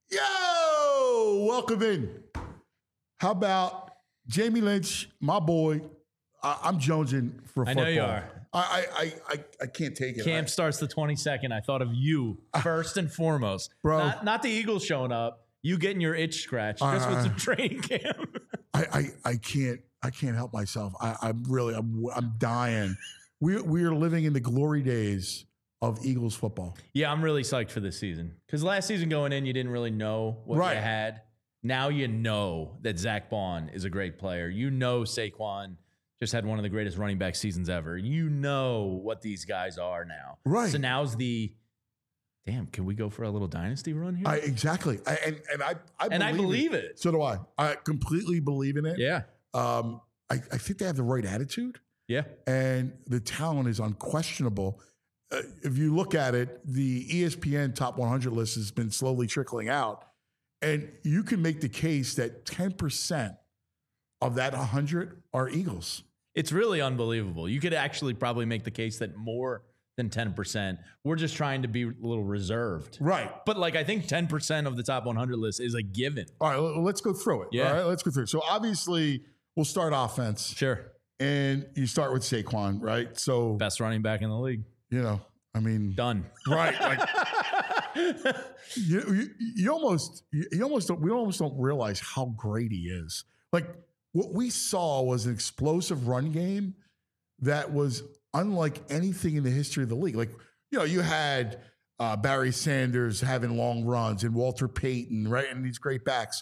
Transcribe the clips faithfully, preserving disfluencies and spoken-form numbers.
Yo, welcome in. How about Jamie Lynch, my boy? I, I'm jonesing for football. I know you are. I I I, I can't take it. Camp I, starts the twenty-second. I thought of you first and foremost. Bro. Not, not the Eagles showing up. You getting your itch scratched just Uh, with some training camp. I, I I can't I can't help myself. I, I'm really I'm I'm dying. We we are living in the glory days of Eagles football. Yeah, I'm really psyched for this season. Because last season going in, you didn't really know what Right. you had. Now you know that Zach Bond is a great player. You know Saquon just had one of the greatest running back seasons ever. You know what these guys are now. Right. So now's the, damn, can we go for a little dynasty run here? I exactly. I, and and I I and I believe it. it. So do I. I completely believe in it. Yeah. Um. I, I think they have the right attitude. Yeah. And the talent is unquestionable. Uh, if you look at it, the E S P N top one hundred list has been slowly trickling out. And you can make the case that ten percent of that one hundred are Eagles. It's really unbelievable. You could actually probably make the case that more than ten percent. We're just trying to be a little reserved. Right. But like I think ten percent of the top one hundred list is a given. All right, l- let's go through it. Yeah. All right, let's go through it. So obviously, we'll start offense. Sure. And you start with Saquon, right? So, Best running back in the league. you know, I mean, Done. right. Like, you, you, you almost, you, you almost don't, we almost don't realize how great he is. Like, what we saw was an explosive run game that was unlike anything in the history of the league. Like, you know, you had uh, Barry Sanders having long runs and Walter Payton, right? And these great backs.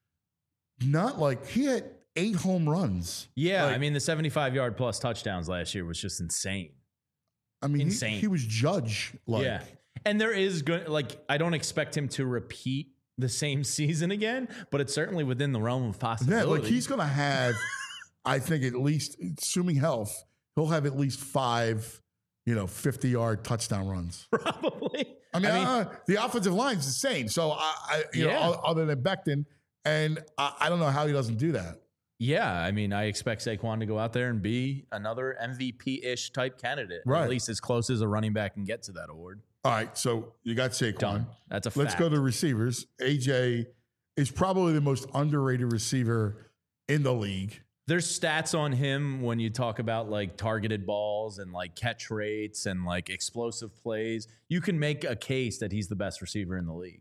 Not like he had eight home runs. Yeah, Like, I mean the seventy-five yard plus touchdowns last year was just insane. I mean, he, insane. he was Judge. Like, yeah. And there is good like I don't expect him to repeat the same season again, but it's certainly within the realm of yeah, possibility. like he's going to have, I think at least, assuming health, he'll have at least five, you know, fifty yard touchdown runs. probably. I mean, I mean uh, the offensive line's the same. So, I, I you Yeah. know, other than Becton, and I, I don't know how he doesn't do that. Yeah, I mean, I expect Saquon to go out there and be another M V P-ish type candidate, Right. at least as close as a running back can get to that award. All right, so you got Saquon. Done. That's a fact. Let's go to receivers. A J is probably the most underrated receiver in the league. There's stats on him when you talk about like targeted balls and like catch rates and like explosive plays. You can make a case that he's the best receiver in the league.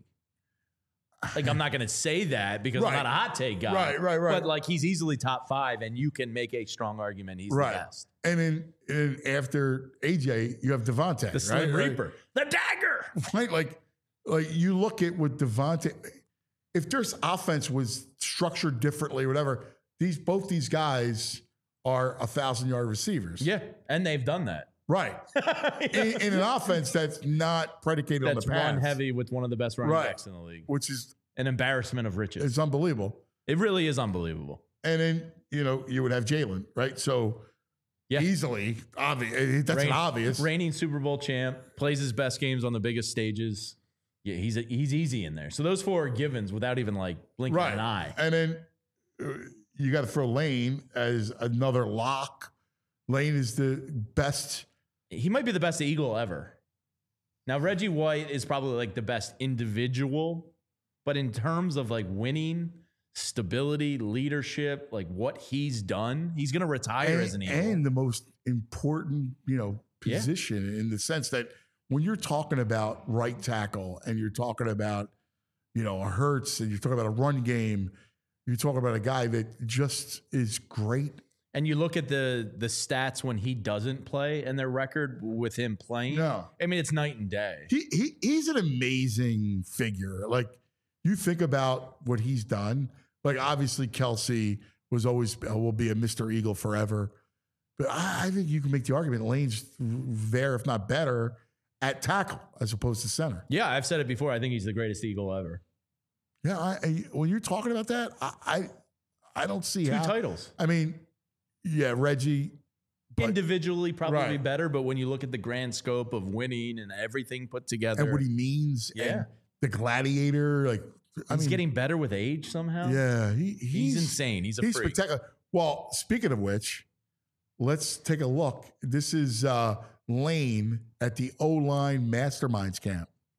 Like, I'm not going to say that because Right. I'm not a hot take guy. Right, right, right. But like, he's easily top five, and you can make a strong argument he's Right. the best. And then and after A J, you have Devontae. The Slim right? Reaper, the dagger. Right? Like, like you look at what Devontae, if there's offense was structured differently, whatever, these both these guys are a thousand yard receivers. Yeah, and they've done that. Right. in, in an offense that's not predicated on That's the pass. run heavy with one of the best running Right. backs in the league. Which is An embarrassment of riches. it's unbelievable. It really is unbelievable. And then, you know, you would have Jalen, right? So Yeah. easily, obvious. That's Reign- an obvious. Reigning Super Bowl champ, plays his best games on the biggest stages. Yeah, he's a, he's easy in there. So those four are givens without even like blinking Right. an eye. And then uh, you got to throw Lane as another lock. Lane is the best. He might be the best Eagle ever. Now Reggie White is probably like the best individual, but in terms of like winning, stability, leadership, like what he's done, he's going to retire And, as an Eagle. and the most important, you know, Yeah. position in the sense that when you're talking about right tackle and you're talking about, you know, a Hurts and you're talking about a run game, you're talking about a guy that just is great. And you look at the the stats when he doesn't play and their record with him playing. No. I mean, it's night and day. He, he he's an amazing figure. Like you think about what he's done. Like obviously Kelsey was always will be a Mister Eagle forever, but I, I think you can make the argument Lane's there, if not better, at tackle as opposed to center. Yeah, I've said it before. I think he's the greatest Eagle ever. Yeah, I, I, when you're talking about that, I I, I don't see Two how. titles. I mean, yeah, Reggie. But, Individually, probably Right. better, but when you look at the grand scope of winning and everything put together, and what he means. Yeah. And the gladiator, like I he's mean, getting better with age somehow. yeah, he, he's, he's, insane. He's a He's freak. spectacular. Well, speaking of which, let's take a look. This is uh, Lane at the O-Line Masterminds Camp.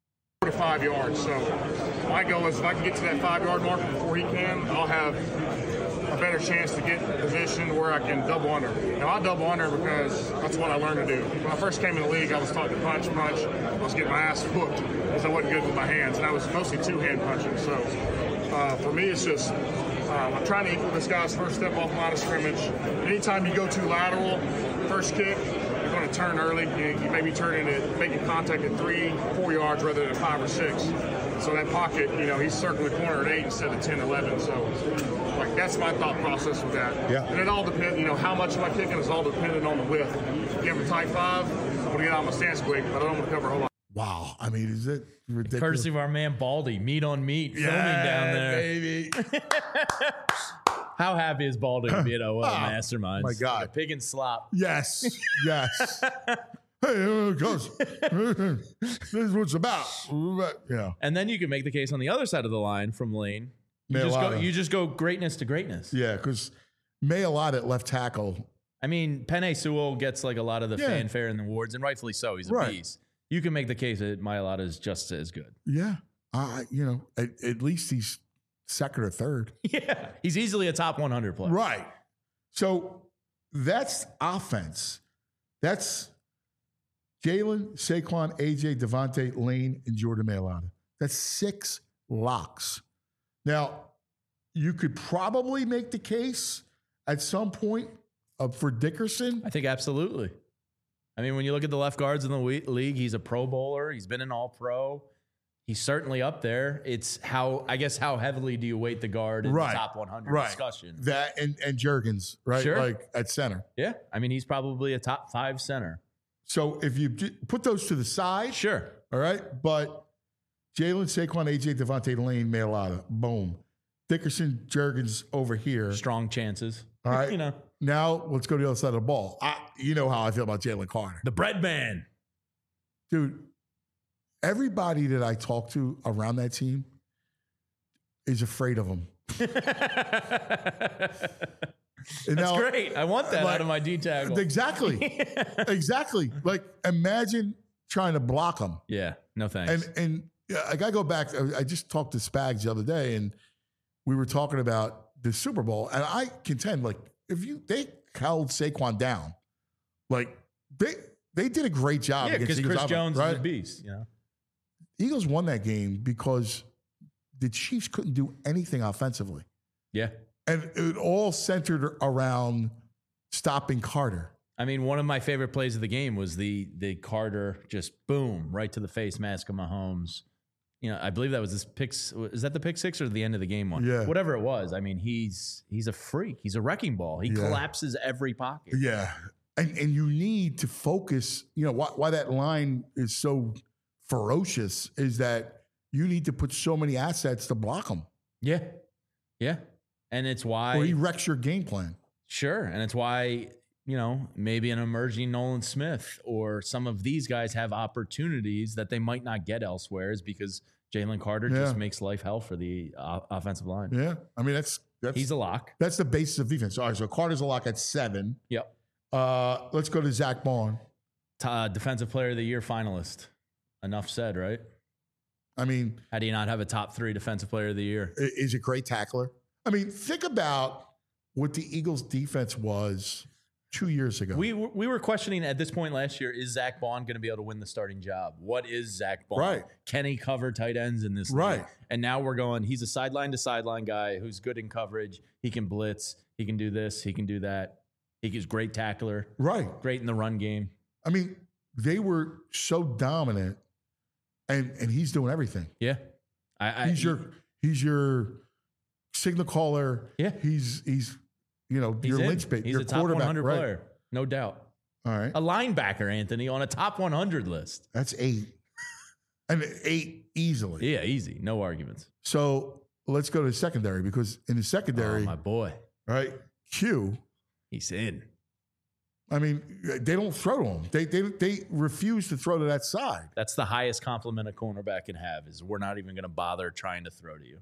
to five yards. So my goal is if I can get to that five-yard mark before he can, I'll have a better chance to get in a position where I can double under. Now, I double under because that's what I learned to do. When I first came in the league, I was taught to punch, punch. I was getting my ass whooped because I wasn't good with my hands, and I was mostly two-hand punching. So uh, for me, it's just um, I'm trying to equal this guy's first step off line of scrimmage. Anytime you go too lateral, first kick, you're going to turn early. You, you maybe turn into making contact at three, four yards rather than five or six. So that pocket, you know, he's circling the corner at eight instead of ten, eleven. So, like, that's my thought process with that. Yeah. And it all depends, you know, how much am I kicking is all dependent on the width. If you have a tight five, I'm going to get out of my stance quick, but I don't want to cover a whole lot. Wow. I mean, is it ridiculous? Courtesy of our man Baldy, meat on meat, yeah, filming down there. baby. How happy is Baldy to be at O L Oh, Masterminds? my God. Like a pig and slop. Yes. Yes. Hey, here it goes. This is what it's about. Yeah. And then you can make the case on the other side of the line from Lane. You just, go, Mailata. you just go greatness to greatness. Yeah, because Mailata at left tackle. I mean, Penei Sewell gets like a lot of the Yeah. fanfare in the awards, and rightfully so. He's a Right. beast. You can make the case that Mailata is just as good. Yeah. Uh, you know, at, at least he's second or third. Yeah. He's easily a top one hundred player. Right. So that's offense. That's Jalen, Saquon, A J, Devontae, Lane, and Jordan Mailata. That's six locks. Now, you could probably make the case at some point uh, for Dickerson. I think absolutely. I mean, when you look at the left guards in the we- league, he's a Pro Bowler. He's been an All-Pro. He's certainly up there. It's how, I guess, how heavily do you weight the guard in Right. the top one hundred Right. discussion? That and, and Juergens, right? Sure. Like at center. Yeah. I mean, he's probably a top five center. So if you j- put those to the side, Sure. all right, but Jalen, Saquon, A J, Devontae, Lane, Mailata, boom. Dickerson, Juergens over here. Strong chances. All right. You know, Now let's go to the other side of the ball. I, you know how I feel about Jalen Carter. the bread man. Dude, everybody that I talk to around that team is afraid of him. And That's now- great. I want that like, out of my D tackle. Exactly. Exactly. Like, imagine trying to block him. Yeah. No thanks. And and yeah, I gotta go back. I I just talked to Spags the other day, and we were talking about the Super Bowl. And I contend, like, if you they held Saquon down, like they they did a great job. yeah, against because Eagles Chris offense, Jones right? is a beast. You know. Eagles won that game because the Chiefs couldn't do anything offensively, Yeah. and it all centered around stopping Carter. I mean, one of my favorite plays of the game was the the Carter just boom right to the face mask of Mahomes. You know, I believe that was this pick. Is that the pick six or the end of the game one? Yeah. Whatever it was. I mean, he's he's a freak. He's a wrecking ball. He Yeah. collapses every pocket. Yeah, and and you need to focus. You know why why that line is so ferocious is that you need to put so many assets to block him, Yeah. Yeah. And it's why or he wrecks your game plan. Sure. And it's why, you know, maybe an emerging Nolan Smith or some of these guys have opportunities that they might not get elsewhere is because Jalen Carter Yeah. just makes life hell for the uh, offensive line. Yeah, I mean that's that's He's a lock. that's the basis of defense. All right, so Carter's a lock at seven. Yep. Uh, let's go to Zach Bond. Uh, Defensive Player of the Year finalist. Enough said, right? I mean, How do you not have a top three Defensive Player of the Year? i- is a great tackler. I mean, think about what the Eagles' defense was two years ago. We were- we were questioning at this point last year, is Zach Bond going to be able to win the starting job? What is Zach Bond? Right. Can he cover tight ends in this league? Right. And now we're going, he's a sideline to sideline guy who's good in coverage. He can blitz. He can do this. He can do that. He's a great tackler. right. Great in the run game. I mean, they were so dominant, and and he's doing everything. Yeah. I, I, He's your he's your signal caller. Yeah. He's he's you know he's your in. linchpin. He's your a top one quarterback. hundred Right. player. No doubt. All right, A linebacker, Anthony, on a top one hundred list. that's eight, and eight easily. Yeah, easy. No arguments. So let's go to secondary because in the Oh, secondary, my boy. right, Q. He's in. I mean, they don't throw to him. They they they refuse to throw to that side. That's the highest compliment a cornerback can have is we're not even going to bother trying to throw to you.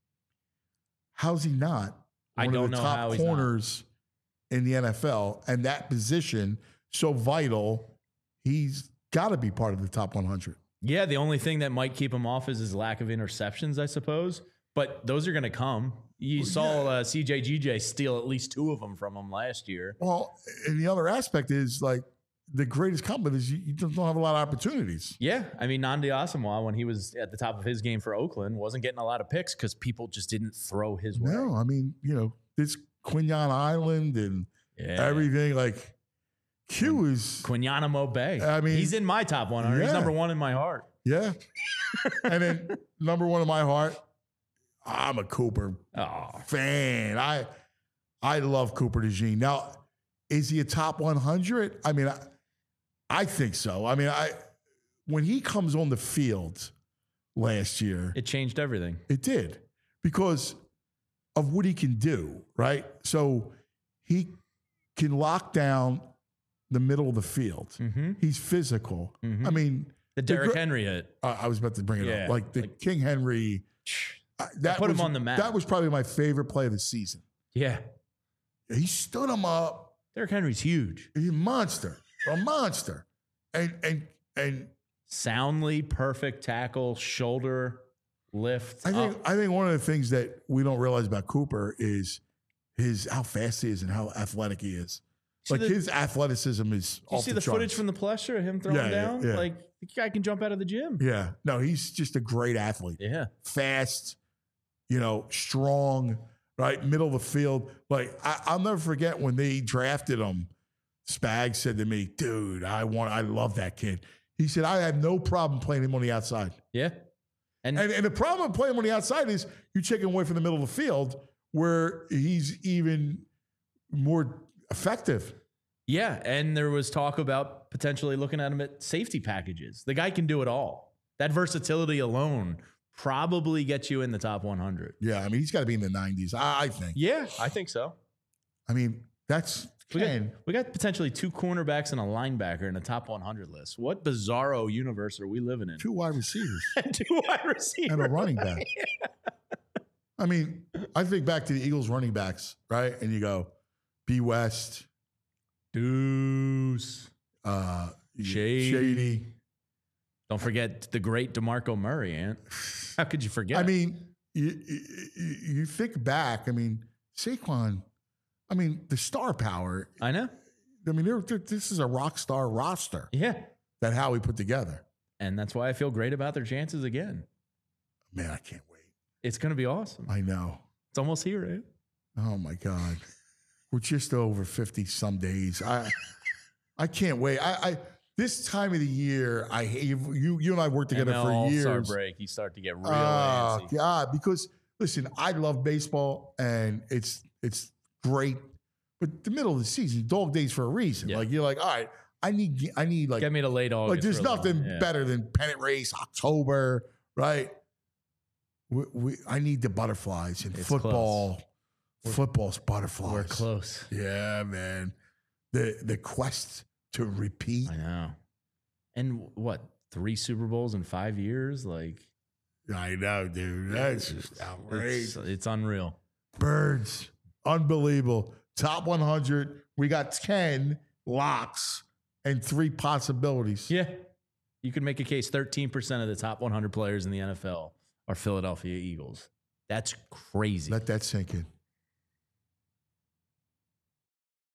How's he not I one don't of the know top how he's not. corners in the N F L and that position so vital? He's got to be part of the top one hundred. Yeah, the only thing that might keep him off is his lack of interceptions, I suppose. But those are going to come. You saw uh, C J G J steal at least two of them from him last year. Well, and the other aspect is like the greatest compliment is you, you just don't have a lot of opportunities. Yeah, I mean, Nnamdi Asomugha, when he was at the top of his game for Oakland, wasn't getting a lot of picks because people just didn't throw his way. No, I mean, you know, this Quinyon Island and Yeah. everything. Like Q is, Quinyanamo Bay. I mean- he's in my top one hundred. He's Yeah. number one in my heart. yeah. And then number one in my heart, I'm a Cooper Oh, fan. I I love Cooper DeJean. Now, is he a top one hundred? I mean, I, I think so. I mean, I when he comes on the field last year, it changed everything. it did because of what he can do, right? So he can lock down the middle of the field. Mm-hmm. He's physical. I mean, The the Derrick gr- Henry hit. uh, I was about to bring it Yeah, up. Like the like- King Henry. uh, that put him was- on the map. That was probably my favorite play of the season. Yeah. He stood him up. Derrick Henry's huge. He's a monster, a monster, and and and Soundly perfect tackle, shoulder lift. I think up. I think one of the things that we don't realize about Cooper is his how fast he is and how athletic he is. See Like the- his athleticism is. You off see the, the charts. footage from the pressure of him throwing Yeah, yeah, down? yeah. Like, the guy can jump out of the gym. Yeah, no, he's just a great athlete. Yeah. Fast, you know, strong, right, middle of the field. Like I, I'll never forget when they drafted him. Spags said to me, "Dude, I want, I love that kid." He said, "I have no problem playing him on the outside." Yeah. And, And, and the problem with playing him on the outside is you're taking away from the middle of the field where he's even more effective. yeah. And there was talk about potentially looking at him at safety packages. The guy can do it all. That versatility alone probably gets you in the top one hundred. Yeah, I mean, he's got to be in the nineties, I, I think. Yeah, I think so. I mean, that's We got, Ken. we got potentially two cornerbacks and a linebacker in the top one hundred list. What bizarro universe are we living in? Two wide receivers Two wide receivers. and a running back. I mean, I think back to the Eagles running backs, right? And you go, B. West, Deuce. uh, Shady. Shady. Don't forget the great DeMarco Murray, Ant. How could you forget? I mean, you, you, you think back, I mean, Saquon, I mean, the star power. I know. I mean, they're, they're, this is a rock star roster Yeah. that Howie put together. And that's why I feel great about their chances again. Man, I can't wait. It's going to be awesome. I know. It's almost here, Ant. Oh my God. We're just over fifty some days. I I can't wait. I, I this time of the year, I you you, you and I worked together M L for All-Star years. break, you start to get real Oh antsy. God, because listen, I love baseball and it's it's great, but the middle of the season, dog days for a reason. Yeah. Like you're like, all right, I need I need like Get me to late August. like there's for a little nothing while. Yeah. better than pennant race, October, right? We, we I need the butterflies in It's football. Football's butterflies. We're close. Yeah, man. The the quest to repeat. I know. And what, three Super Bowls in five years? Like, I know, dude. That's just it's, outrageous. it's unreal. Birds. Unbelievable. Top one hundred. We got ten locks and three possibilities. Yeah. You could make a case thirteen percent of the top one hundred players in the N F L are Philadelphia Eagles. That's crazy. Let that sink in.